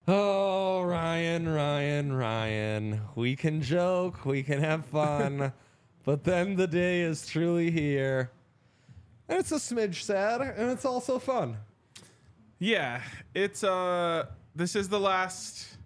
Oh, Ryan. We can joke, we can have fun, but then the day is truly here. And it's a smidge sad, and it's also fun. Yeah, it's this is the last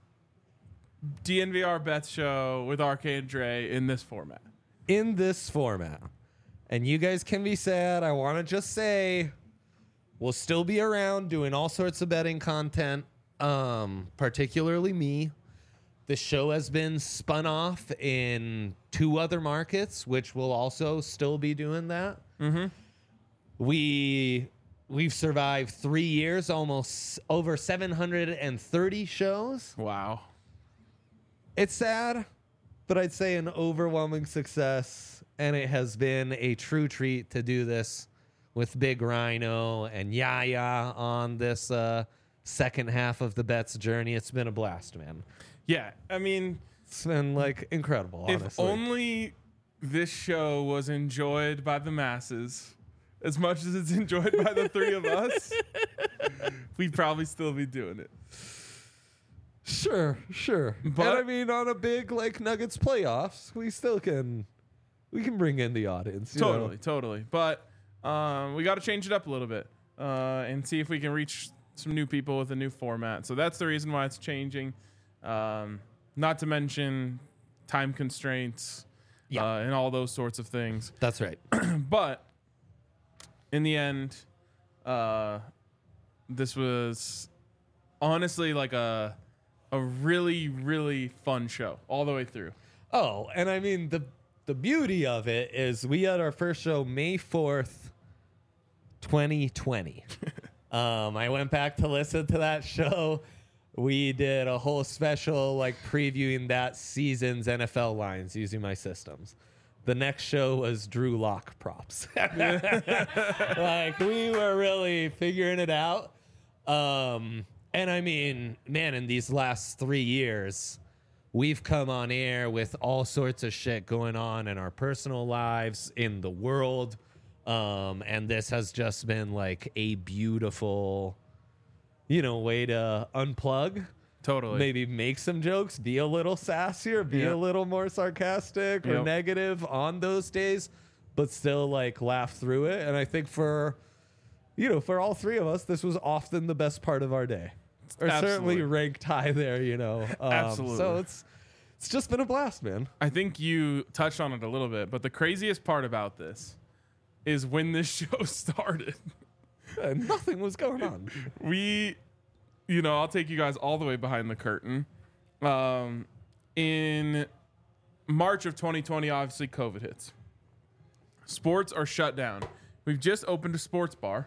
DNVR Bets show with RK and Dre in this format. In this format. And you guys can be sad. I want to just say we'll still be around doing all sorts of betting content, particularly me. The show has been spun off in 2 other markets, which will also still be doing that. Mm-hmm. We've survived 3 years, almost over 730 shows. Wow. It's sad, but I'd say an overwhelming success, and it has been a true treat to do this with Big Rhino and Yaya on this second half of the Bets journey. It's been a blast, man. Yeah, I mean, It's been like incredible, honestly. if only this show was enjoyed by the masses as much as it's enjoyed by the 3 of us, we'd probably still be doing it. Sure. But And I mean, on a big like Nuggets playoffs, we can bring in the audience. you know? Totally. But we got to change it up a little bit and see if we can reach some new people with a new format. So that's the reason why it's changing. Not to mention time constraints and all those sorts of things. That's right. But in the end, this was honestly like a really, really fun show all the way through. Oh, and I mean the beauty of it is we had our first show May 4th, 2020. I went back to listen to that show. We did a whole special like previewing that season's NFL lines using my systems. The next show was Drew Lock props. Like we were really figuring it out. And I mean, man, in these last 3 years, we've come on air with all sorts of shit going on in our personal lives, in the world. And this has just been like a beautiful, way to unplug. Totally. Maybe make some jokes, be a little sassier, be a little more sarcastic or negative on those days, but still like laugh through it. And I think for all 3 of us, this was often the best part of our day. Or certainly ranked high there, Absolutely. So it's just been a blast, man. I think you touched on it a little bit, but the craziest part about this is when this show started. Nothing was going on. I'll take you guys all the way behind the curtain. In March of 2020, obviously COVID hits. Sports are shut down. We've just opened a sports bar.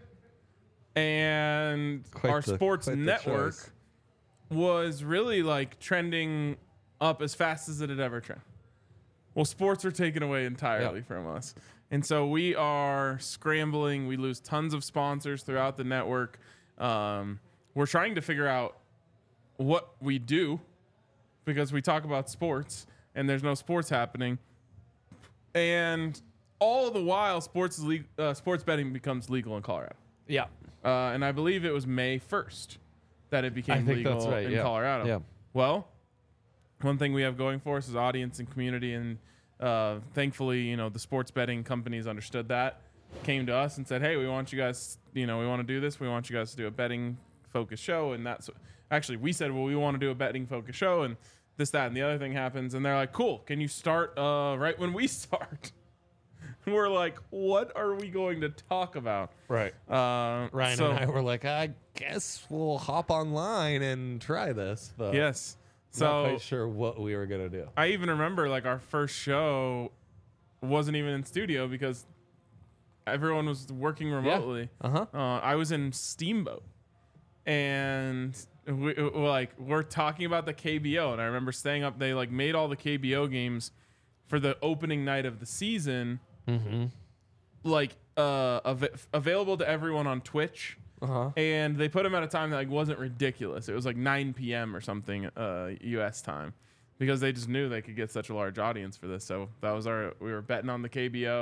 And our sports network was really like trending up as fast as it had ever trended. Well, sports are taken away entirely from us. And so we are scrambling. We lose tons of sponsors throughout the network. We're trying to figure out what we do because we talk about sports and there's no sports happening. And all the while, sports betting becomes legal in Colorado. Yeah. And I believe it was May 1st that it became legal in Colorado. Yeah. Well, one thing we have going for us is audience and community. And thankfully, the sports betting companies understood that, came to us and said, hey, we want you guys, we want to do this. We want you guys to do a betting focused show. And that's actually, we said, well, we want to do a betting focused show. And this, that, and the other thing happens. And they're like, cool. Can you start right when we start? We're like, what are we going to talk about? Right. Ryan and I were like, I guess we'll hop online and try this. But yes. So not quite sure what we were going to do. I even remember like our first show wasn't even in studio because everyone was working remotely. Yeah. I was in Steamboat and we're talking about the KBO. And I remember staying up. They like made all the KBO games for the opening night of the season. Mm-hmm. Like available to everyone on Twitch, and they put them at a time that like wasn't ridiculous. It was like 9 p.m. or something U.S. time because they just knew they could get such a large audience for this. So that was we were betting on the KBO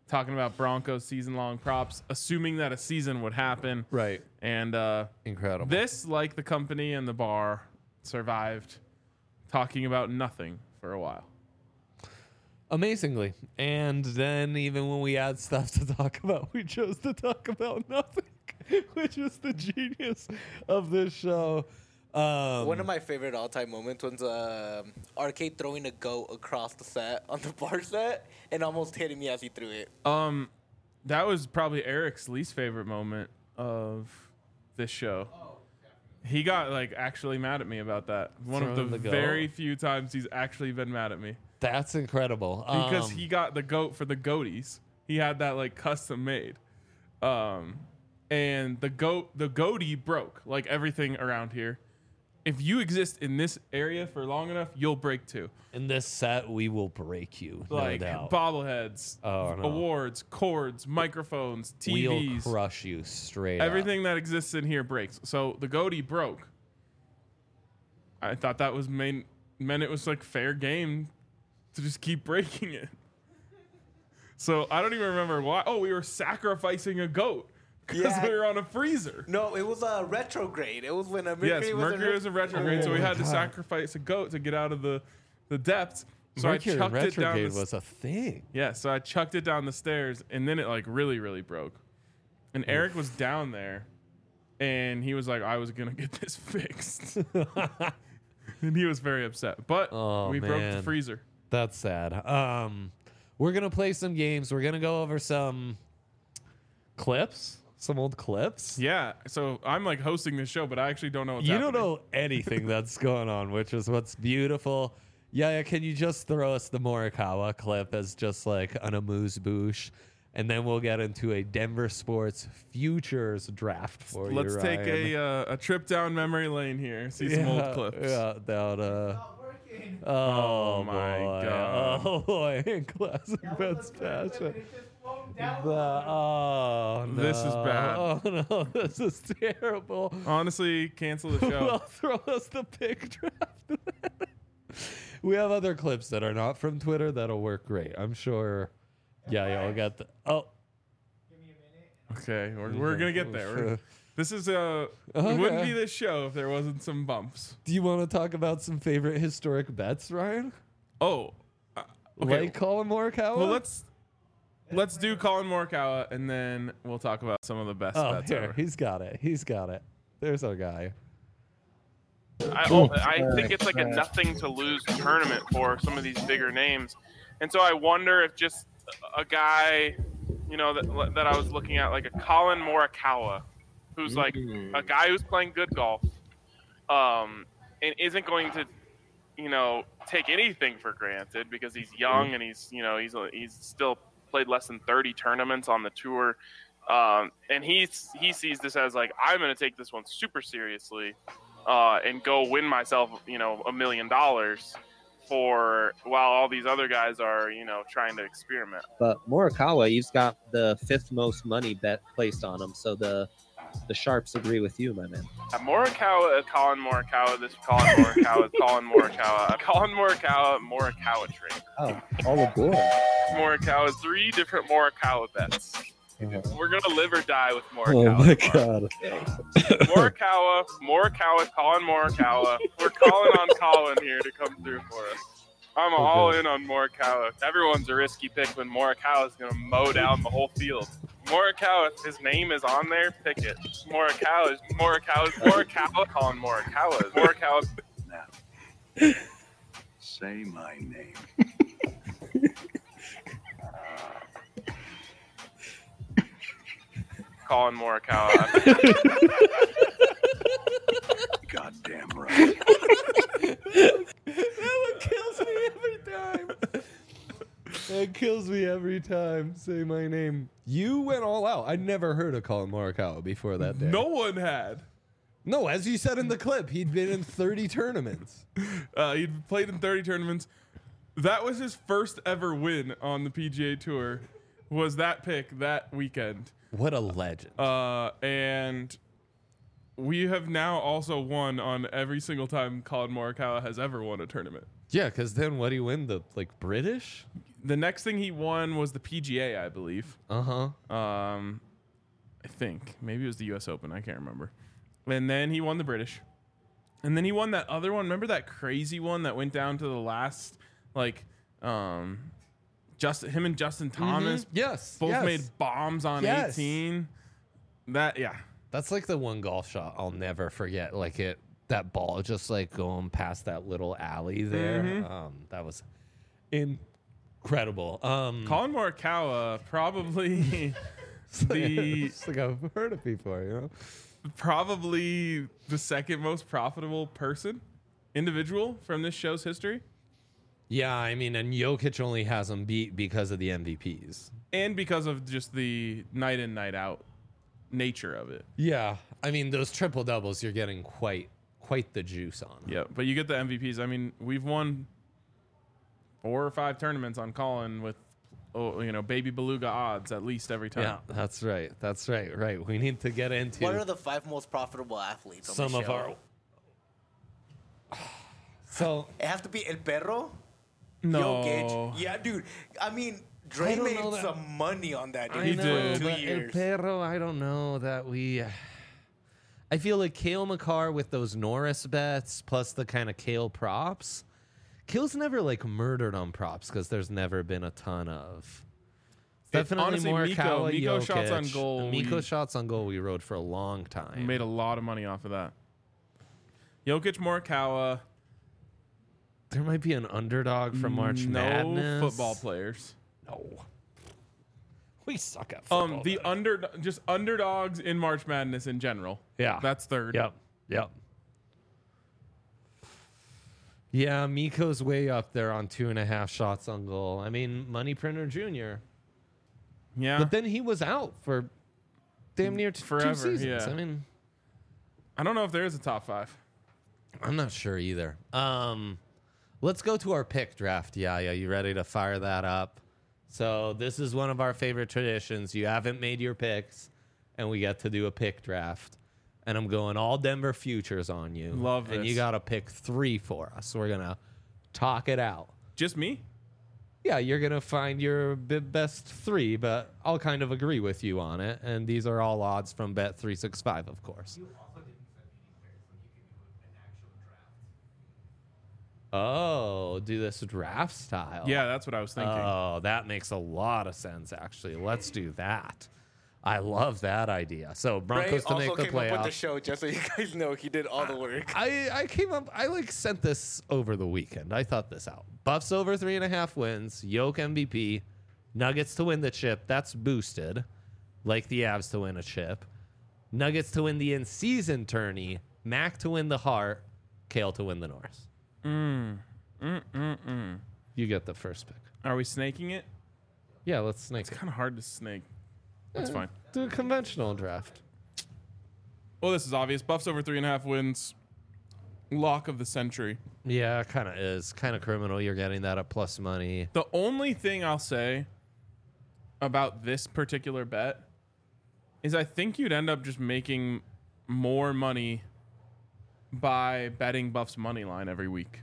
talking about Broncos season-long props, assuming that a season would happen. Right. And incredible. This, like the company and the bar, survived talking about nothing for a while. Amazingly. And then even when we had stuff to talk about, we chose to talk about nothing, which is the genius of this show. One of my favorite all-time moments was Arcade throwing a goat across the set on the bar set and almost hitting me as he threw it. That was probably Eric's least favorite moment of this show. He got like actually mad at me about that. One of the very few times he's actually been mad at me. That's incredible. Because he got the goat for the goaties. He had that like custom made. And the goatee broke, like everything around here. If you exist in this area for long enough, you'll break too. In this set, we will break you, like no doubt. Bobbleheads, awards, cords, microphones, TVs. We'll crush you straight Everything that exists in here breaks. So the goatee broke. I thought that was meant it was like fair game to just keep breaking it. So I don't even remember why. Oh, we were sacrificing a goat. Because we were on a freezer. No, it was a retrograde. It was when a Mercury was a retrograde, so we had to sacrifice a goat to get out of the depths. So Mercury I chucked it down. Retrograde was a thing. Yeah, so I chucked it down the stairs, and then it like really, really broke. And Eric was down there, and he was like, "I was gonna get this fixed," and he was very upset. But we broke the freezer. That's sad. We're gonna play some games. We're gonna go over some clips. Some old clips. Yeah, so I'm like hosting this show, but I actually don't know what's happening. You don't know anything that's going on, which is what's beautiful. Yeah, can you just throw us the Morikawa clip as just like an amuse-bouche? And then we'll get into a Denver Sports Futures draft for you, Let's take a trip down memory lane here. See some old clips. Yeah, that, Oh my God. Oh boy, classic Ben's passion. No. This is bad. Oh no, this is terrible. Honestly, cancel the show. Well, throw us the pick draft. We have other clips that are not from Twitter that'll work great. I'm sure. Yeah, we'll get the. Oh. Give me a minute. Okay, we're gonna get there. This is It wouldn't be this show if there wasn't some bumps. Do you want to talk about some favorite historic bets, Ryan? Oh, okay. Like Colin Morikawa? Well, let's do Colin Morikawa, and then we'll talk about some of the best bets ever. He's got it. He's got it. There's our guy. I think it's like a nothing to lose tournament for some of these bigger names, and so I wonder if just a guy, that I was looking at, like a Colin Morikawa, who's like a guy who's playing good golf, and isn't going to, take anything for granted because he's young and he's still played less than 30 tournaments on the tour. And he sees this as like, I'm going to take this one super seriously and go win myself, $1 million while all these other guys are, trying to experiment. But Morikawa, he's got the 5th most money bet placed on him. So the sharps agree with you, my man. Morikawa, Colin Morikawa, this Colin Morikawa, Colin Morikawa, Colin Morikawa, Morikawa train. Oh, all aboard. Morikawa, 3 different Morikawa bets. Uh-huh. We're going to live or die with Morikawa. Oh, my God. Morikawa, Colin Morikawa. We're calling on Colin here to come through for us. I'm all in on Morikawa. Everyone's a risky pick when Morikawa is going to mow down the whole field. Morikawa, his name is on there, pick it. Morikawa, Colin Morikawa. Morikawa. Now, say my name. Colin Morikawa. Goddamn right. That one kills me every time. That kills me every time. Say my name. You went all out. I never heard of Colin Morikawa before that day. No one had. No, as you said in the clip, he'd been in 30 tournaments. He'd played in 30 tournaments. That was his first ever win on the PGA Tour. Was that pick that weekend? What a legend. And we have now also won on every single time Colin Morikawa has ever won a tournament. Yeah, because then what do you win? The British? The next thing he won was the PGA, I believe. Uh-huh. I think maybe it was the U.S. Open. I can't remember. And then he won the British. And then he won that other one. Remember that crazy one that went down to the last, like, him and Justin Thomas Yes. both yes. made bombs on Yes. 18. That's like the one golf shot I'll never forget. Like that ball just like going past that little alley there. That was incredible. Colin Morikawa probably it's like I've heard of before, you know. probably the second most profitable individual from this show's history. Yeah, I mean, and Jokic only has him beat because of the MVPs. And because of just the night in, night out nature of it. Yeah, I mean, those triple doubles, you're getting quite the juice on. Yeah, but you get the MVPs. I mean, we've won 4 or 5 tournaments on Colin with, baby beluga odds at least every time. Yeah, that's right. Right. We need to get into What are the 5 most profitable athletes on some the of show? our. So It have to be El Perro? No. Jokic? Yeah, dude. I mean, Dre don't made know that- some money on that, dude. He for did. 2 but El years. Perro, I don't know that we. I feel like Kale McCarr with those Norris bets plus the kind of Kale props. Kale's never like murdered on props because there's never been a ton of. Definitely honestly, Morikawa, Miko Jokic. shots on goal, Miko we- shots on goal. We rode for a long We time. made a lot of money off of that. Jokic, Morikawa. There might be an underdog from March Madness. No football players. No. We suck at football. The underdogs in March Madness in general. Yeah. That's third. Yep. Yeah, Miko's way up there on 2.5 shots on goal. I mean, Money Printer Jr. Yeah. But then he was out for damn near Forever, 2 seasons. yeah. I mean, I don't know if there is a top 5. I'm not sure either. Let's go to our pick draft. Yeah, you ready to fire that up? So this is one of our favorite traditions. You haven't made your picks, and we get to do a pick draft. And I'm going all Denver futures on you. Love And this. you got to pick 3 for us. We're going to talk it out. Just me? Yeah, you're going to find your best 3, but I'll kind of agree with you on it. And these are all odds from Bet365, of course. Oh, do this draft style. Yeah, that's what I was thinking. Oh, that makes a lot of sense, actually. Let's do that. I love that idea. So Dre Broncos to also make the came up with the playoffs. show, just so you guys know. He did all the work. I came up. I sent this over the weekend. I thought this out. Buffs over 3.5 wins. Yoke MVP. Nuggets to win the chip. That's boosted. Like the Avs to win a chip. Nuggets to win the in-season tourney. Mac to win the Heart. Kale to win the Norris. You get the first pick. Are we snaking it? Yeah, let's snake It's it. kind of hard to snake. That's fine. Do a conventional draft. Well, this is obvious. Buffs over 3.5 wins. Lock of the century. Yeah, kind of is. Kind of criminal. You're getting that at plus money. The only thing I'll say about this particular bet is I think you'd end up just making more money by betting Buffs money line every week.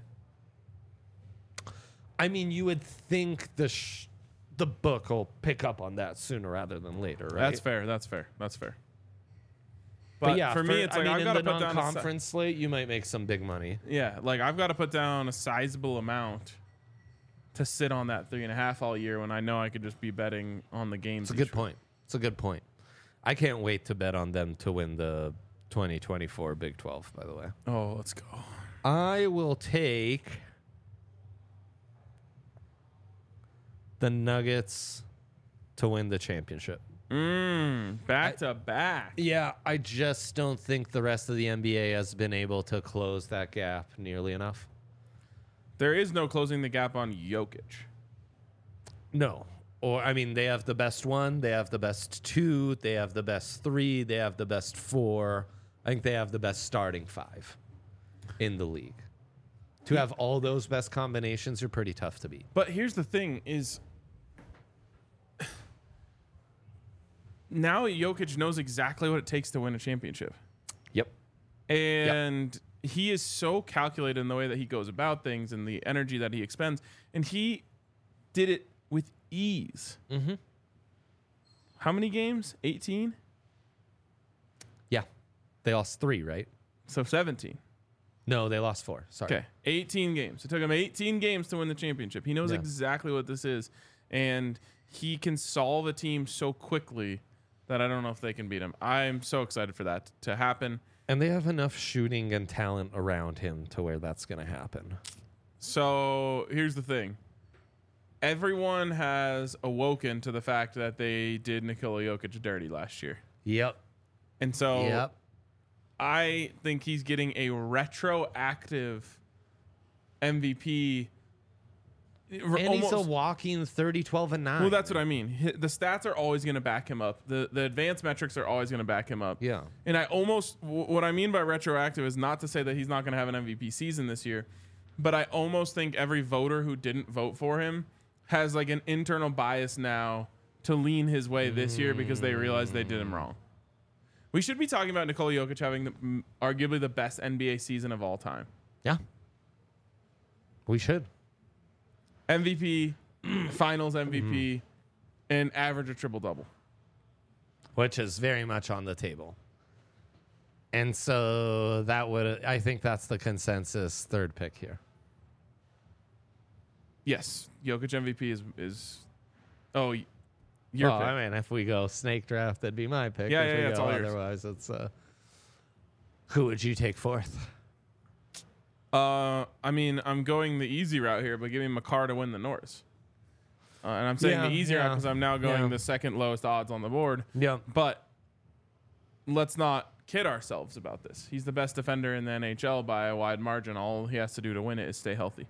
I mean, you would think the book will pick up on that sooner rather than later, right? That's fair. That's fair. That's fair. But yeah, for me, it's like I've in got to the put down non-conference slate, you might make some big money. I've got to put down a sizable amount to sit on that 3.5 all year when I know I could just be betting on the games. It's a good point. It's a good point. I can't wait to bet on them to win the 2024 Big 12, by the way. Oh, let's go. I will take the Nuggets to win the championship. Back to back. Yeah, I just don't think the rest of the NBA has been able to close that gap nearly enough. There is no closing the gap on Jokic. No. Or, I mean, they have the best 1, they have the best 2, they have the best 3, they have the best 4. I think they have the best starting 5 in the league. To have all those best combinations are pretty tough to beat. But here's the thing is now Jokic knows exactly what it takes to win a championship. Yep. And he is so calculated in the way that he goes about things and the energy that he expends. And he did it with ease. Mm-hmm. How many games? 18? Yeah. They lost 3, right? So 17. No, they lost 4. Sorry. Okay, 18 games. It took him 18 games to win the championship. He knows Yeah. exactly what this is, and he can solve a team so quickly that I don't know if they can beat him. I'm so excited for that to happen. And they have enough shooting and talent around him to where that's going to happen. So here's the thing. Everyone has awoken to the fact that they did Nikola Jokic dirty last year. Yep. And so Yep. I think he's getting a retroactive MVP. And he's a walking 30, 12, and 9. Well, that's what I mean. The stats are always going to back him up. The advanced metrics are always going to back him up. Yeah. And what I mean by retroactive is not to say that he's not going to have an MVP season this year, but I almost think every voter who didn't vote for him has like an internal bias now to lean his way this year because they realize they did him wrong. We should be talking about Nikola Jokic having arguably the best NBA season of all time. Yeah. We should. MVP, Finals MVP, and average a triple-double. Which is very much on the table. And so I think that's the consensus third pick here. Yes, Jokic MVP is your pick. I mean, if we go snake draft, that'd be my pick. Yeah, if we it's go all yours. otherwise, it's who would you take fourth? I mean, I'm going the easy route here, but give me Makar to win the Norris. And I'm saying the easy route because I'm now going the second lowest odds on the board. Yeah. But let's not kid ourselves about this. He's the best defender in the NHL by a wide margin. All he has to do to win it is stay healthy.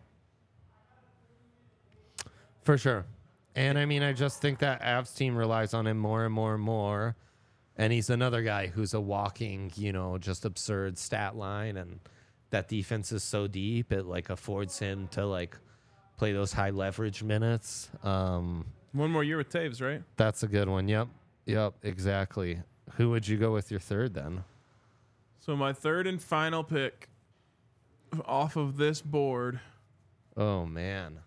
For sure. And I mean, I just think that Avs team relies on him more and more and more. And he's another guy who's a walking, just absurd stat line. And that defense is so deep, it like affords him to like play those high leverage minutes. One more year with Taves, right? That's a good one. Yep, exactly. Who would you go with your third then? So my third and final pick off of this board. Oh, man.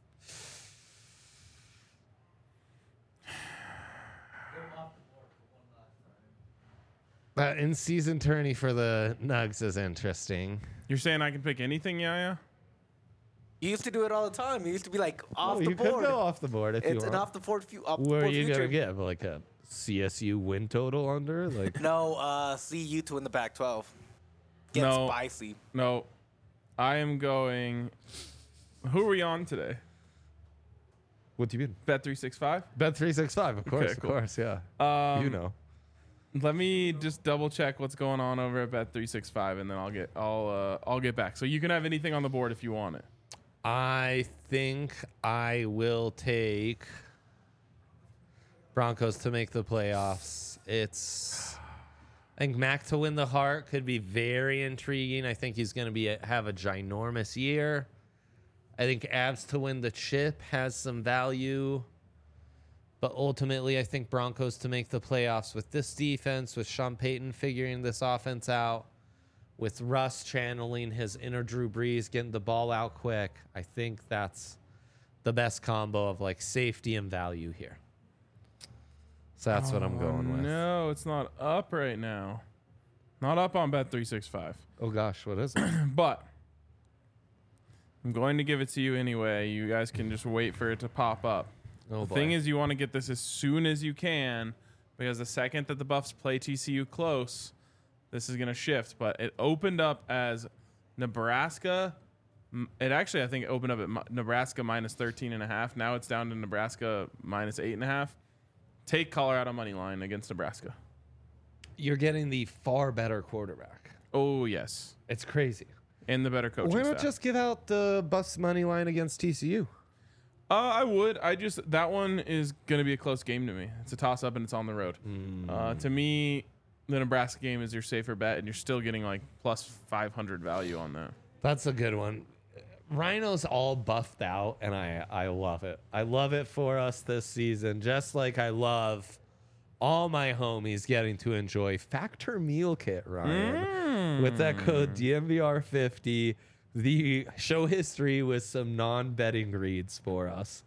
That in-season tourney for the Nugs is interesting. You're saying I can pick anything, Yaya? You used to do it all the time. You used to be like off the you board. could go off the board if you It's want. an off the board. Where are you going to give? Like a CSU win total under? Like No, CU to win the Pac-12. Get spicy. No. I am going. Who are we on today? What do you mean? Bet365? Bet365, of course, Okay, cool. of course, yeah. Let me just double check what's going on over at Bet365, and then I'll get back. So you can have anything on the board if you want it. I think I will take Broncos to make the playoffs. I think Mac to win the Hart could be very intriguing. I think he's going to have a ginormous year. I think Avs to win the chip has some value. But ultimately, I think Broncos to make the playoffs with this defense, with Sean Payton figuring this offense out, with Russ channeling his inner Drew Brees, getting the ball out quick. I think that's the best combo of like safety and value here. So that's what I'm going with. No, it's not up right now. Not up on Bet365. Oh gosh, what is it? But I'm going to give it to you anyway. You guys can just wait for it to pop up. Oh, The thing is, you want to get this as soon as you can, because the second that the Buffs play TCU close, this is going to shift. But it opened up as Nebraska. It actually, I think, opened up at Nebraska minus 13.5. Now it's down to Nebraska minus 8.5. Take Colorado money line against Nebraska. You're getting the far better quarterback. Oh, yes. It's crazy. And the better coaching Why not staff. just give out the Buffs money line against TCU? I would. That one is going to be a close game to me. It's a toss-up, and it's on the road. To me, the Nebraska game is your safer bet, and you're still getting like plus 500 value on that. That's a good one. Rhino's all buffed out, and I love it. I love it for us this season, just like I love all my homies getting to enjoy Factor Meal Kit, Ryan. With that code DMVR50, the show history with some non-betting reads for us.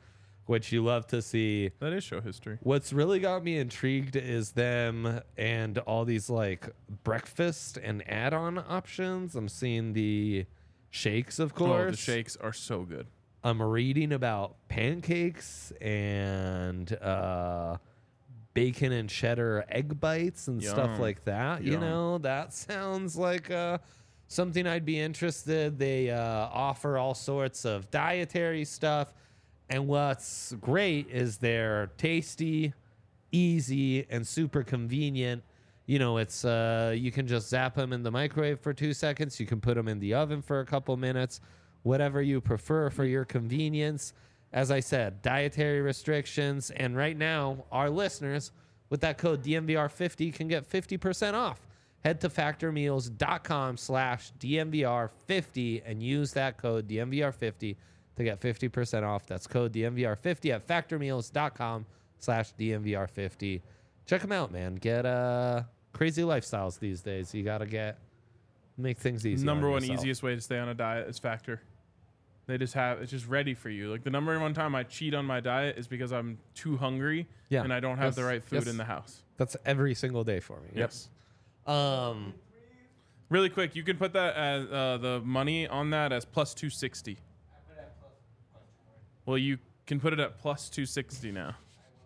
which you love to see. That is show history. What's really got me intrigued is them and all these like breakfast and add-on options. I'm seeing the shakes, of course. Oh, the shakes are so good. I'm reading about pancakes and bacon and cheddar egg bites and stuff Yum. like that. You Yum. know, that sounds like something I'd be interested. They offer all sorts of dietary stuff. And what's great is they're tasty, easy, and super convenient. You know, it's you can just zap them in the microwave for 2 seconds. You can put them in the oven for a couple minutes, whatever you prefer for your convenience. As I said, dietary restrictions. And right now, our listeners, with that code DMVR50, can get 50% off. Head to factormeals.com/DMVR50 and use that code DMVR50 to get 50% off. That's code DMVR50 at factormeals.com/DMVR50. Check them out, man. Get crazy lifestyles these days. You got to make things easy. Number on one yourself. easiest way to stay on a diet is Factor. They just have it's just ready for you. Like the number one time I cheat on my diet is because I'm too hungry Yeah. and I don't have the Yes. right food Yes. in the house. That's every single day for me. Yes. Yep. Really quick, you can put that as the money on that as plus 260. Well, you can put it at plus 260 now.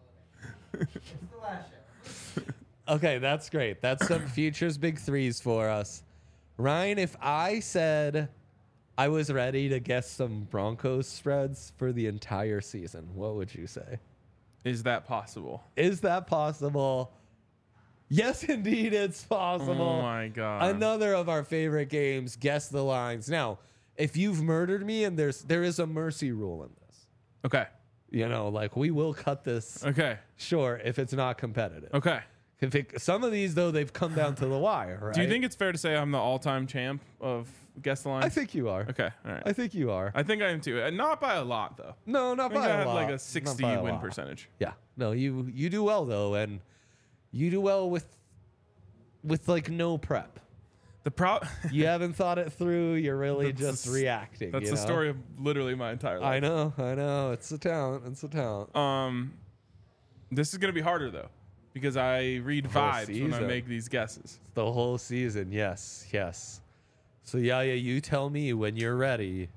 Okay, that's great. That's some futures big threes for us. Ryan, if I said I was ready to guess some Broncos spreads for the entire season, what would you say? Is that possible? Is that possible? Yes, indeed, it's possible. Oh my god. Another of our favorite games, guess the lines. Now, if you've murdered me and there is a mercy rule in this. Okay. You know, like we will cut this Okay. short if it's not competitive. Okay. Some of these, though, they've come down to the wire, right? Do you think it's fair to say I'm the all-time champ of Guess the Line? I think you are. Okay. All right. I think you are. I think I am too. Not by a lot though. No, not I think by I a had lot. like a Not 60 by a win lot. percentage. Yeah. No, you do well though, and you do well with like no prep. The pro. You haven't thought it through. You're really That's just reacting. That's you the know? story of literally my entire life. I know. It's a talent. It's a talent. This is gonna be harder though, because I read whole vibes when I season. make these guesses. The whole season. Yes. So yeah, you tell me when you're ready.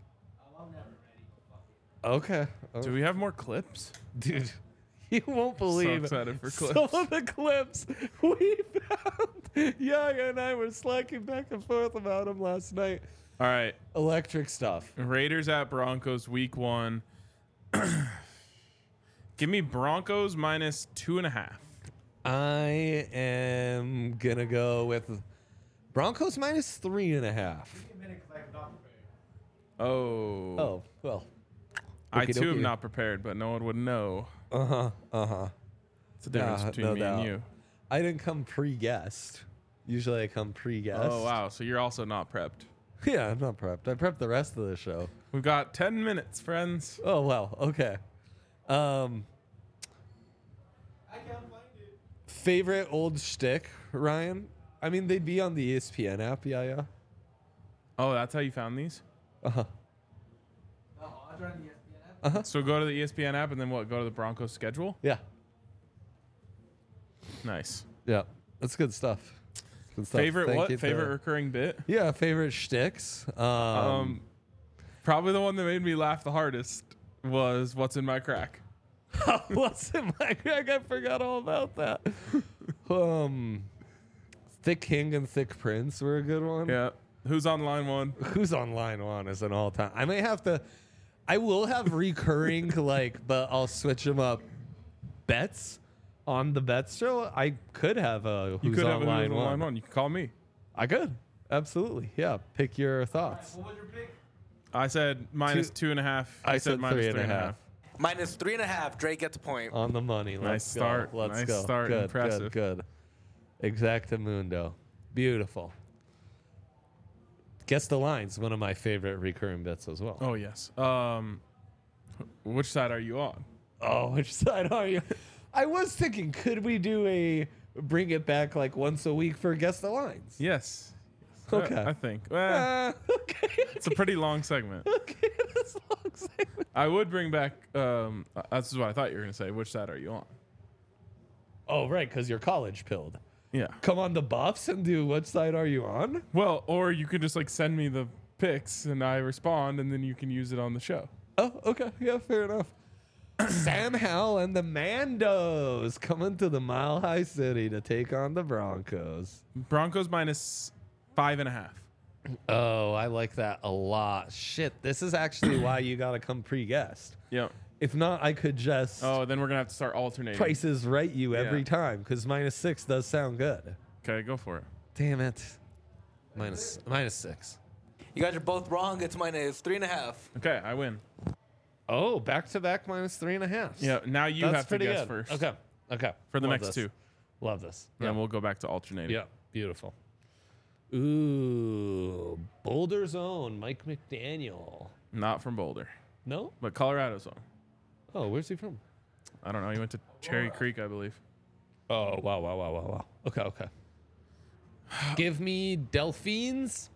Okay. Do we have more clips? Dude, you won't believe excited for clips. some of the clips we found. Yaga and I were slacking back and forth about them last night. All right. Electric stuff. Raiders at Broncos week 1. Give me Broncos minus 2.5. I am gonna go with Broncos minus 3.5. Oh. Oh well. I Okie too dokie. am not prepared, but no one would know. Uh huh. It's the difference between no me and doubt. you. I didn't come pre-guessed. Usually I come pre-guessed. Oh wow, so you're also not prepped. Yeah, I'm not prepped. I prepped the rest of the show. We've got 10 minutes, friends. Oh well, okay. Favorite old shtick, Ryan? I mean, they'd be on the ESPN app, yeah. Oh, that's how you found these? Uh-huh. So go to the ESPN app and then what? Go to the Broncos schedule? Yeah. Nice. Yeah. That's good stuff. Good stuff. Favorite Thank what? you to- Favorite recurring bit? Yeah, favorite shticks. Probably the one that made me laugh the hardest was What's in My Crack. What's in my crack? I forgot all about that. Thick King and Thick Prince were a good one. Yeah. Who's on line 1? Who's on line 1 is an all time. I will have recurring but I'll switch them up. Bets on the bets show. I could have a You who's could on have line who's on 1. line 1. You can call me. I could absolutely. Yeah. Pick your thoughts. I said minus 2.5. I You said minus 3.5. Minus 3.5. Drake gets a point. On the money. Let's Nice go. start. Let's Nice go. start. Good. Impressive. Good. Exactamundo. Beautiful. Guess the lines. One of my favorite recurring bits as well. Oh, yes. Which side are you on? Oh, which side are you? I was thinking, could we do bring it back like once a week for Guess the Lines? Yes. Okay. I think. Well, Okay. it's a pretty long segment. Okay, this long segment. I would bring back. This is what I thought you were gonna say. Which side are you on? Oh, right, because you're college pilled. Yeah. Come on the Buffs and do what side are you on? Well, or you could just like send me the picks and I respond, and then you can use it on the show. Oh, okay. Yeah, fair enough. Sam Howell and the Mandos coming to the Mile High City to take on the Broncos. Broncos -5.5. Oh, I like that a lot. Shit, this is actually why you got to come pre-guessed. Yeah. If not, I could just Oh, then we're gonna have to start alternating. prices right you every Yeah. time because -6 does sound good. Okay, go for it. Damn it. -6. You guys are both wrong. It's -3.5. Okay, I win. Oh, back-to-back -3.5. Yeah. Now you That's have to pretty guess good. first. Okay. Okay. For the Love next this. two. Love this. Then we'll go back to alternating. Yeah, beautiful. Ooh, Boulder's own Mike McDaniel. Not from Boulder, No? but Colorado's one. Oh, where's he from? I don't know. He went to Cherry Creek, I believe. Oh, wow. Okay. Give me Delphines.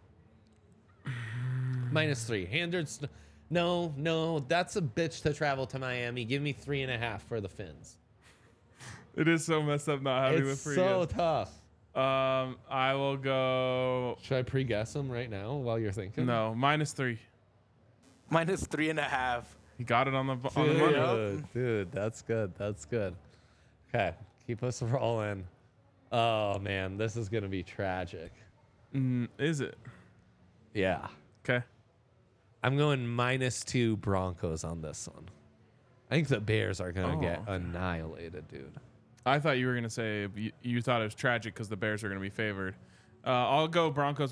-3. Handers. No, that's a bitch to travel to Miami. Give me 3.5 for the Fins. It is so messed up not having It's the free. so tough. I will go. Should I pre-guess them right now while you're thinking? No, -3. -3.5. He got it on the Dude, money. dude, that's good. That's good. Okay, keep us rolling. Oh man, this is gonna be tragic. Is it? Yeah, Okay. I'm going -2 Broncos on this one. I think the Bears are gonna get Oh. annihilated, dude. I thought you were gonna say you thought it was tragic because the Bears are gonna be favored. I'll go Broncos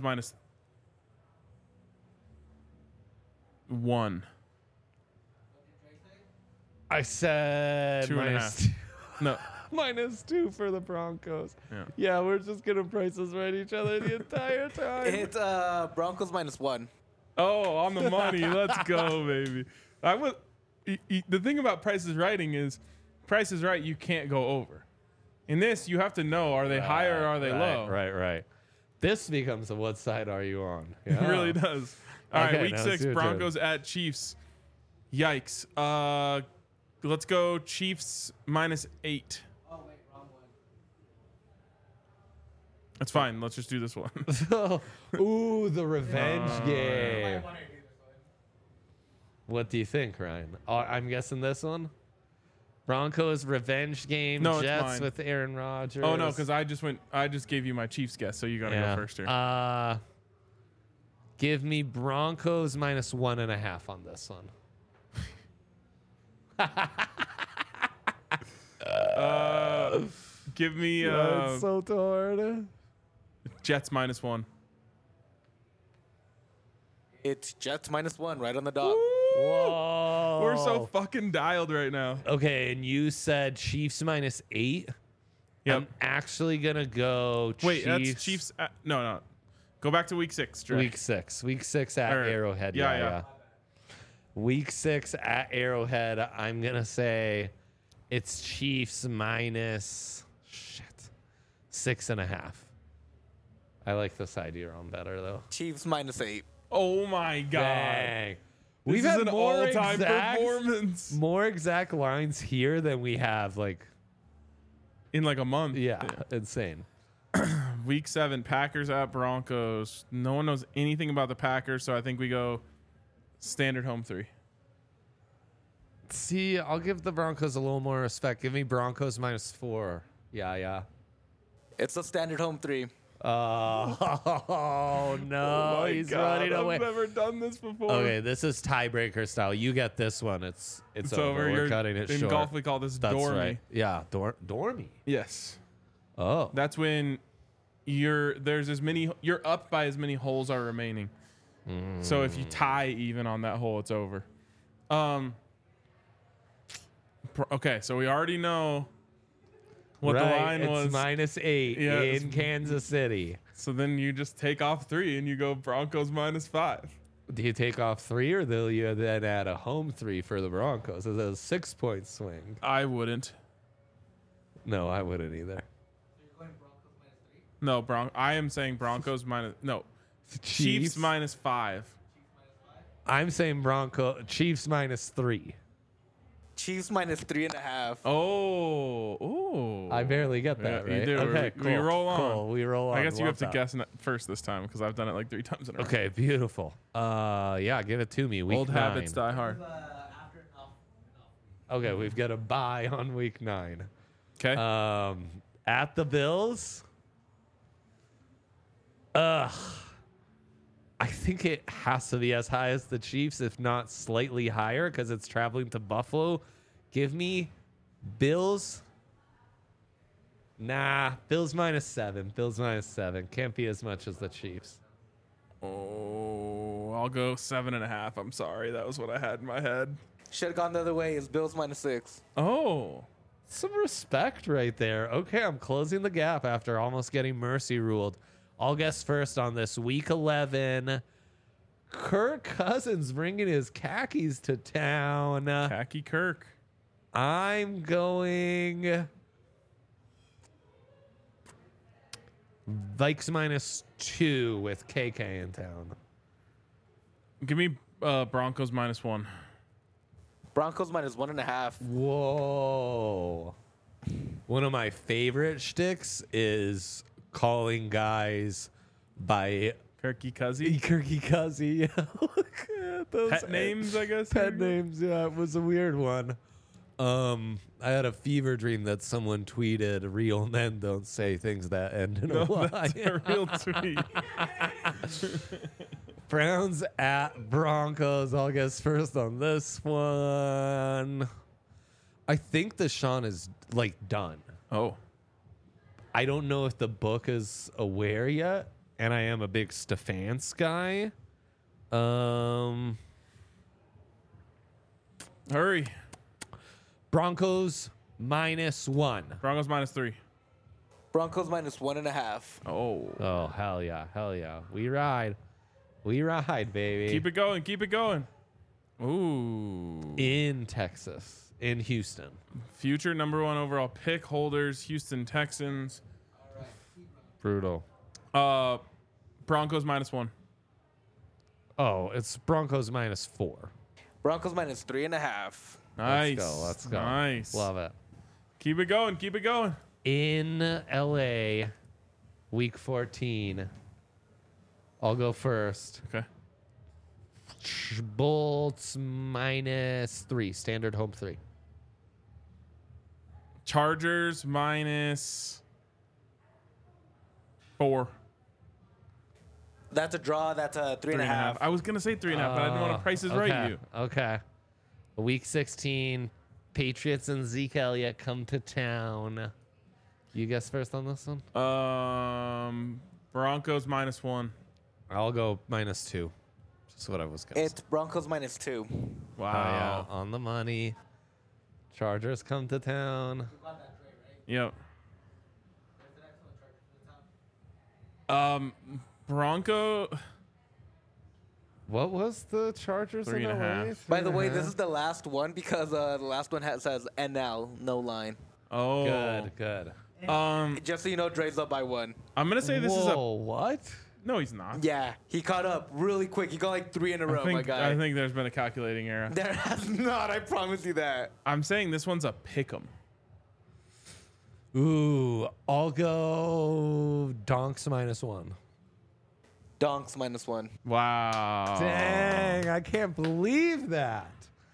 -1. I said 2.5. No. -2 for the Broncos. Yeah. Yeah, we're just gonna prices right each other the entire time. It's Broncos -1. Oh, on the money. Let's go, baby. I was. The thing about Price is Righting is, Price is Right. You can't go over. In this, you have to know: are they high or are they low? Right. This becomes a what side are you on? It really does. All right, Okay, week now 6, it's your turn. Broncos at Chiefs. Yikes. Let's go Chiefs -8. Oh wait, wrong one. That's fine. Let's just do this one. Ooh, the revenge game. wanted to do this one. What do you think, Ryan? I'm guessing this one. Broncos revenge game. No, it's Jets mine. with Aaron Rodgers. Oh no, because I just gave you my Chiefs guess, so you gotta go first here. Give me Broncos -1.5 on this one. Give me That's so hard. Jets -1. It's Jets -1, right on the dot. Whoa. We're so fucking dialed right now. Okay, and you said Chiefs -8. Yep. I'm actually gonna go. Wait, that's Chiefs. No. Go back to week 6. Dre. Week 6 at Or- Arrowhead. yeah, Yeah. yeah. Week 6 at Arrowhead. I'm gonna say it's Chiefs -6.5. I like this idea on better though. Chiefs -8. Oh my god. Dang. This We've is had an more all-time exact, performance more exact lines here than we have like in like a month. insane. Week 7, Packers at Broncos. No one knows anything about the Packers, so I think we go standard home 3. See, I'll give the Broncos a little more respect. Give me Broncos -4. Yeah. It's a standard home 3. Oh no, he's running away. I've never done this before. Okay, this is tiebreaker style. You get this one. It's over. We're cutting it in short. golf, we call this That's dormy. right. Yeah, dormy. Yes. Oh, That's when you're up by as many holes are remaining. So if you tie even on that hole, it's over. Okay, so we already know what the line was. It's -8 Yeah, in Kansas City. So then you just take off 3 and you go Broncos -5. Do you take off 3 or will you then add a home 3 for the Broncos? Is it a 6-point swing? I wouldn't. No, I wouldn't either. No, I am saying Broncos Chiefs -5. I'm saying Chiefs -3. Chiefs -3.5. Oh, ooh. I barely get that, Yeah, right? you do. Okay, We roll on. Cool. We roll on. I guess you have Love to that. guess first this time because I've done it like 3 times in a row. Okay, beautiful. Yeah, give it to me. Week Old 9. habits die hard. Okay, we've got a bye on week 9. Okay. At the Bills. I think it has to be as high as the Chiefs, if not slightly higher, because it's traveling to Buffalo. Give me Bills. Nah, Bills -7. Bills -7. Can't be as much as the Chiefs. Oh, I'll go 7.5. I'm sorry. That was what I had in my head. Should have gone the other way. It's Bills -6. Oh. Some respect right there. Okay, I'm closing the gap after almost getting mercy ruled. I'll guess first on this week 11. Kirk Cousins bringing his khakis to town. Khaki Kirk. I'm going Vikes -2 with KK in town. Give me Broncos -1. Broncos -1.5. Whoa. One of my favorite shticks is calling guys by Kirky Cuzzy. Kirky Cuzzy. Look at those Pet names, I guess. Pet names, yeah, it was a weird one. I had a fever dream that someone tweeted, "Real men don't say things that end in a Y." That's a real tweet. Browns at Broncos. I'll guess first on this one. I think Deshaun is like done. Oh. I don't know if the book is aware yet, and I am a big Stefanski guy. Hurry. Broncos -1. Broncos -3. Broncos -1.5. Oh. Oh, hell yeah. Hell yeah. We ride. We ride, baby. Keep it going. Keep it going. Ooh. In Texas. In Houston. Future #1 overall pick holders, Houston Texans. Brutal. Broncos -1. Oh, it's Broncos -4. Broncos -3.5. Nice. Let's go. Nice. Love it. Keep it going. Keep it going. In LA, week 14. I'll go first. Okay. Bolts -3. Standard home 3. Chargers -4. That's a draw. That's a 3.5. I was gonna say 3.5, but I didn't want to price is right you. Okay. Week 16, Patriots and Zeke Elliott come to town. You guess first on this one? Broncos -1. I'll go -2. Just what I was going to It's Broncos -2. Wow. on the money. Chargers come to town. Yep. Bronco. What was the Chargers in 3.5. LA? By the way, this is the last one because the last one says NL, no line. Oh. Good. Just so you know, Dre's up by 1. I'm gonna say this is a. What? No, he's not. Yeah, he caught up really quick. He got like 3 in a row, my guy. I think there's been a calculating error. There has not, I promise you that. I'm saying this one's a pick'em. Ooh, I'll go Donks -1. Donks -1. Wow. Dang, I can't believe that.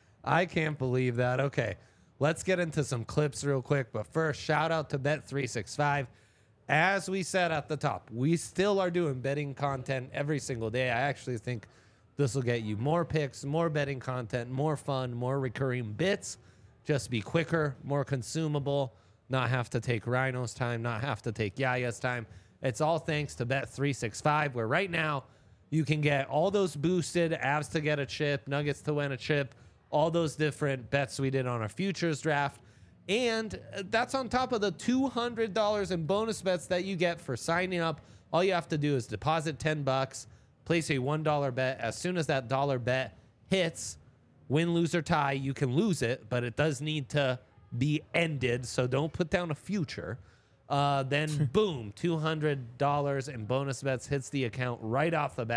Okay, let's get into some clips real quick. But first, shout out to Bet365. As we said at the top, we still are doing betting content every single day. I actually think this will get you more picks, more betting content, more fun, more recurring bits. Just be quicker, more consumable, not have to take Rhino's time, not have to take Yaya's time. It's all thanks to Bet365, where right now you can get all those boosted Avs to get a chip, Nuggets to win a chip, all those different bets we did on our futures draft. And that's on top of the $200 in bonus bets that you get for signing up. All you have to do is deposit $10, place a $1 bet. As soon as that dollar bet hits, win, lose, or tie, you can lose it, but it does need to be ended, so don't put down a future. Then boom, $200 in bonus bets hits the account right off the bat.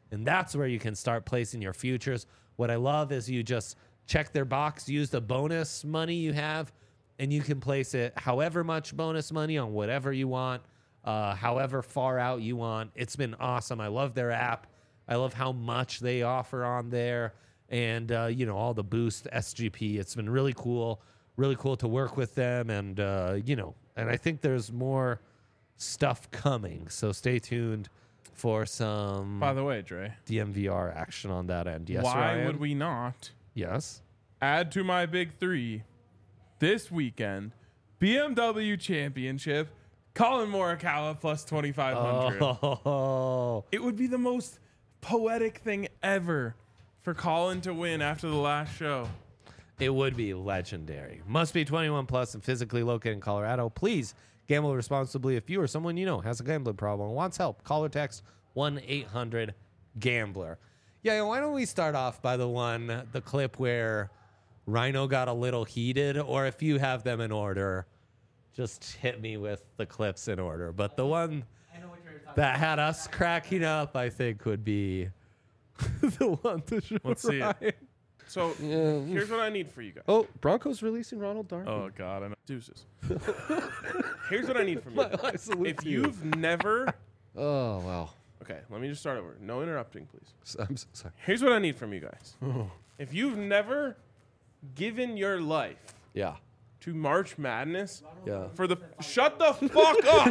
And that's where you can start placing your futures. What I love is you just check their box, use the bonus money you have, and you can place it however much bonus money on whatever you want, however far out you want. It's been awesome. I love their app. I love how much they offer on there, and all the boost SGP. It's been really cool to work with them, and and I think there's more stuff coming. So stay tuned for some. By the way, Dre, DMVR action on that end. Yes, why Ryan? would we not Yes. add to my big three this weekend? BMW Championship, Colin Morikawa plus 2,500. Oh, It would be the most poetic thing ever for Colin to win after the last show. it would be legendary. Must be 21 plus and physically located in Colorado. Please gamble responsibly. If you or someone you know has a gambling problem and wants help, call or text 1-800-GAMBLER. Yeah, why don't we start off by the clip where Rhino got a little heated, or if you have them in order, just hit me with the clips in order. But the one that had us cracking up, I think, would be the one to show. Let's see it. Ryan. So here's what I need for you guys. Oh, Broncos releasing Ronald Darby. Oh, God. I know. Deuces. Here's what I need from you. I salute If you. you've never... Oh, wow. Okay, let me just start over. No interrupting, please. I'm so sorry. Here's what I need from you guys. If you've never given your life Yeah. to March Madness Yeah. for the... Shut the fuck up!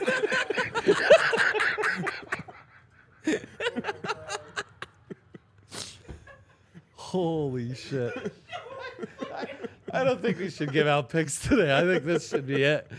Holy shit. I don't think we should give out picks today. I think this should be it.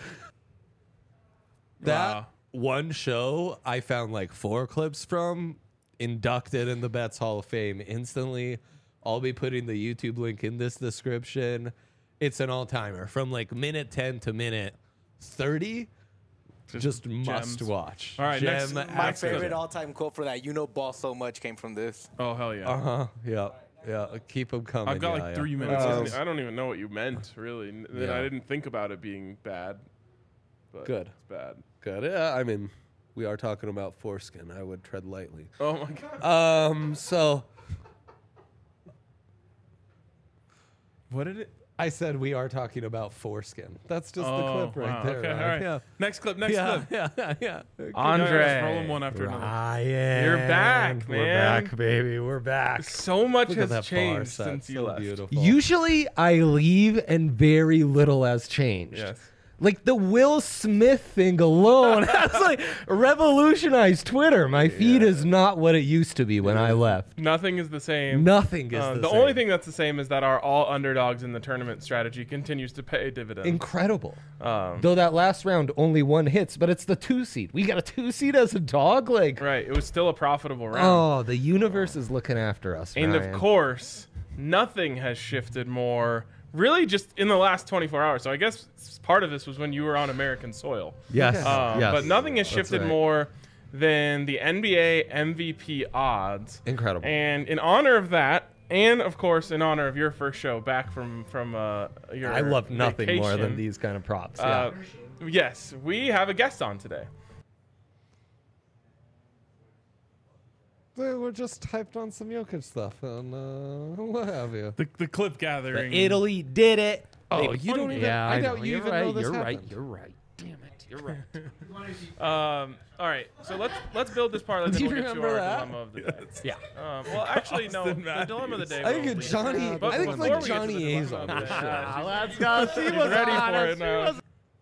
That Wow. one show I found like 4 clips from, inducted in the Bets Hall of Fame instantly. I'll be putting the YouTube link in this description. It's an all-timer from like minute 10 to minute 30. Just must gems. watch. All right, next- My Next favorite clip. all-time quote for that, ball so much, came from this. Oh, hell yeah. Uh-huh. Yeah. Yeah. Keep them coming. I've got Yeah, like yeah. 3 minutes. I don't even know what you meant, really. Yeah. I didn't think about it being bad. But Good. It's bad. Good. Yeah, I mean, we are talking about foreskin. I would tread lightly. Oh, my God. So What did it... I said we are talking about foreskin. That's just the Oh, clip right wow. there. Okay, Ryan. all right. Yeah. Next clip, next Yeah, clip. yeah. Andre. Just roll them one after another. Ryan. You're back, We're man. back, baby. We're back. So much Look at has that bar changed set. since you So left. beautiful. Usually I leave and very little has changed. Yes. Like the Will Smith thing alone has like revolutionized Twitter. My feed is not what it used to be when I left. Nothing is the same. Nothing is The only thing that's the same is that our all underdogs in the tournament strategy continues to pay dividends. Incredible. Though that last round only 1 hits, but it's the 2 seed. We got a 2 seed as a dog. Like, Right. It was still a profitable round. oh, the universe is looking after us. And Ryan. of course, nothing has shifted more. Really, just in the last 24 hours. So I guess part of this was when you were on American soil. Yes. Yes. But nothing has shifted right. more than the NBA MVP odds. Incredible. And in honor of that, and of course in honor of your first show back from your I love nothing more than vacation, these kind of props. Yeah. Yes, we have a guest on today. We're just hyped on some Jokic stuff and what have you. The clip gathering. Italy did it. Oh, you don't even. Yeah, I doubt know. you You're even right. know this You're happened. right. You're right. Damn it. You're right. All right, so let's build this parlay. Then Do you we'll get to remember our that? dilemma of the day. Yeah. Well, actually, no. The dilemma of the day. I think will it's be- Johnny. But I think it's before like we get to Johnny the A's dilemma on of this the shit. day, Let's go. She She's was ready on for it. it now.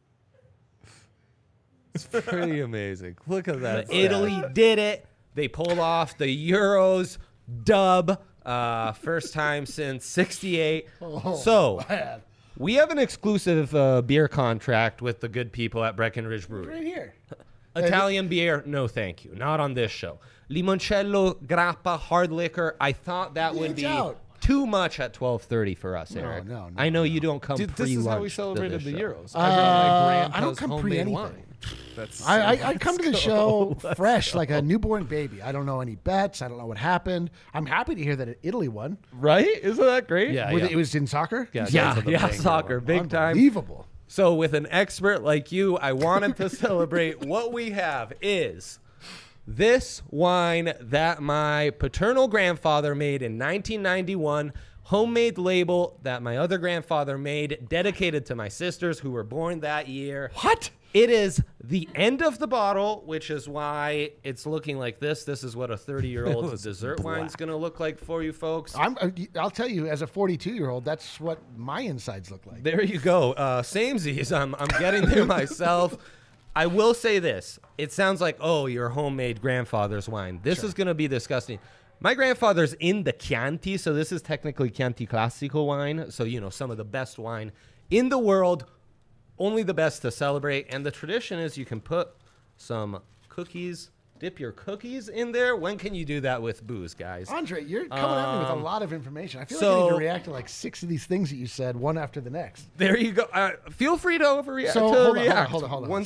It's pretty amazing. Look at that. stat. Italy did it. They pulled off the Euros dub. First time since '68. So we have an exclusive beer contract with the good people at Breckenridge Brewery. Right here. Italian beer, no thank you. Not on this show. Limoncello, grappa, hard liquor. I thought that would be out. too much at 12:30 for us, Eric. no, I know you don't come Dude, pre-lunch. this is how we to celebrated this the show. Euros. I brought my I don't grandpa's come homemade pre-anything. wine. That's I come to the show fresh like a newborn baby. I don't know any bets. I don't know what happened. I'm happy to hear that Italy won. Right? Isn't that great? Yeah, It was in soccer? Yeah, soccer, big time. Unbelievable. So with an expert like you, I wanted to celebrate. What we have is This wine that my paternal grandfather made in 1991, homemade label that my other grandfather made, dedicated to my sisters who were born that year. What? It is the end of the bottle, which is why it's looking like this. This is what a 30-year-old dessert wine's going to look like for you folks. I'll tell you, as a 42-year-old, that's what my insides look like. There you go. Samesies. I'm getting there myself. I will say this. It sounds like, oh, your homemade grandfather's wine. This is going to be disgusting. My grandfather's in the Chianti, so this is technically Chianti Classico wine. So, you know, some of the best wine in the world. Only the best to celebrate. And the tradition is you can put some cookies, dip your cookies in there. When can you do that with booze, guys? Andre, you're coming at me with a lot of information. I feel like I need to react to like 6 of these things that you said, one after the next. There you go. Feel free to overreact. So hold on.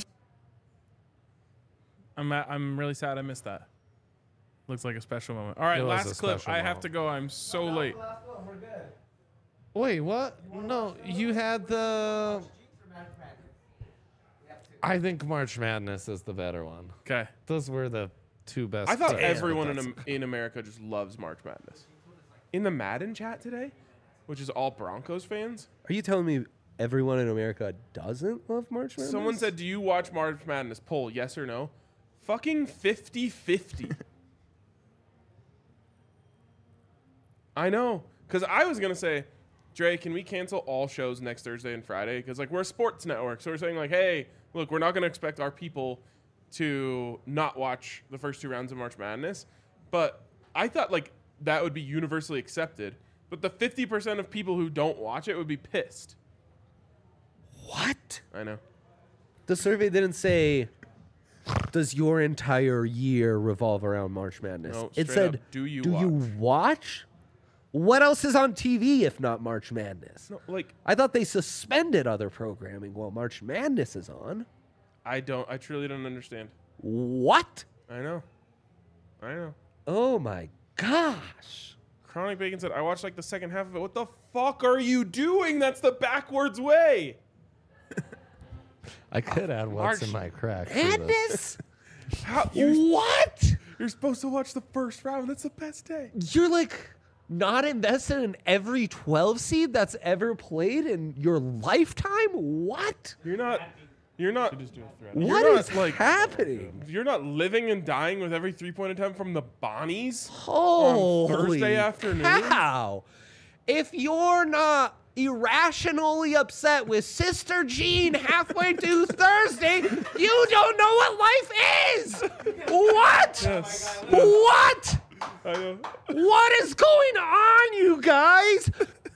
I'm really sad I missed that. Looks like a special moment. All right, last clip. I have to go. I'm so late. Wait, what? No, you had the... I think March Madness is the better one. Okay. Those were the two best. I thought everyone in America just loves March Madness. In the Madden chat today, which is all Broncos fans, Are you telling me everyone in America doesn't love March Madness? someone said, do you watch March Madness? Poll, yes or no? Fucking 50-50. I know. Because I was going to say, Dre, can we cancel all shows next Thursday and Friday? Because, like, we're a sports network. So we're saying, like, hey, look, we're not going to expect our people to not watch the first 2 rounds of March Madness. But I thought, like, that would be universally accepted. But the 50% of people who don't watch it would be pissed. What? I know. The survey didn't say, does your entire year revolve around March Madness? No, it straight said, up, do you watch? What else is on TV if not March Madness? No, like, I thought they suspended other programming while March Madness is on. I truly don't understand. What? I know. Oh my gosh. Chronic Bacon said, I watched like the second half of it. What the fuck are you doing? That's the backwards way. I could add what's in my crack. to this. Madness? How, What? You're supposed to watch the first round. That's the best day. You're like not invested in every 12 seed that's ever played in your lifetime? What? You're not. What is like happening? You're not living and dying with every 3-point attempt from the Bonnies Holy on Thursday afternoon. How? If you're not irrationally upset with Sister Jean halfway through Thursday, you don't know what life is. What? Yes. What? I know. What is going on, you guys?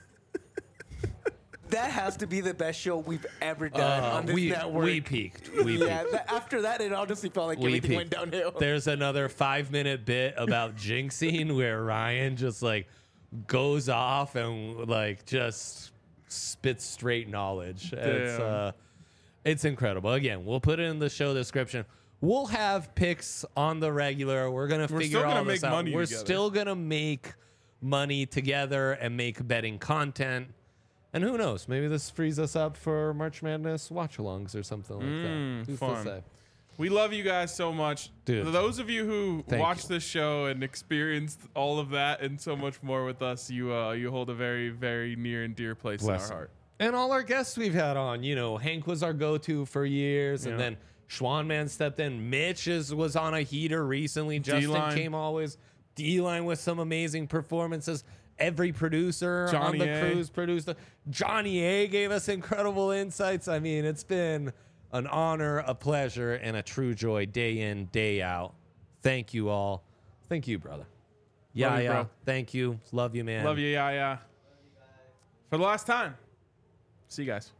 That has to be the best show we've ever done on this network. We peaked. Yeah, after that, it honestly felt like everything went downhill. There's another 5-minute bit about jinxing where Ryan just like goes off and like just spits straight knowledge. It's incredible. Again, we'll put it in the show description. We'll have picks on the regular. We're gonna figure all this out. We're still gonna make money together and make betting content. And who knows? Maybe this frees us up for March Madness watch-alongs or something like that. Who's fun. to say? We love you guys so much. Dude. For those of you who Thank watched you. this show and experienced all of that and so much more with us, you hold a very, very near and dear place in our heart. And all our guests we've had on, you know, Hank was our go-to for years, and then Schwanman stepped in. Mitch was on a heater recently. Justin D-line. came always. D-line with some amazing performances. Every producer on the cruise produced. Johnny A gave us incredible insights. I mean, it's been an honor, a pleasure, and a true joy day in, day out. Thank you all. Thank you, brother. Love you, bro. Thank you. Love you, man. Love you, yeah. For the last time. See you guys.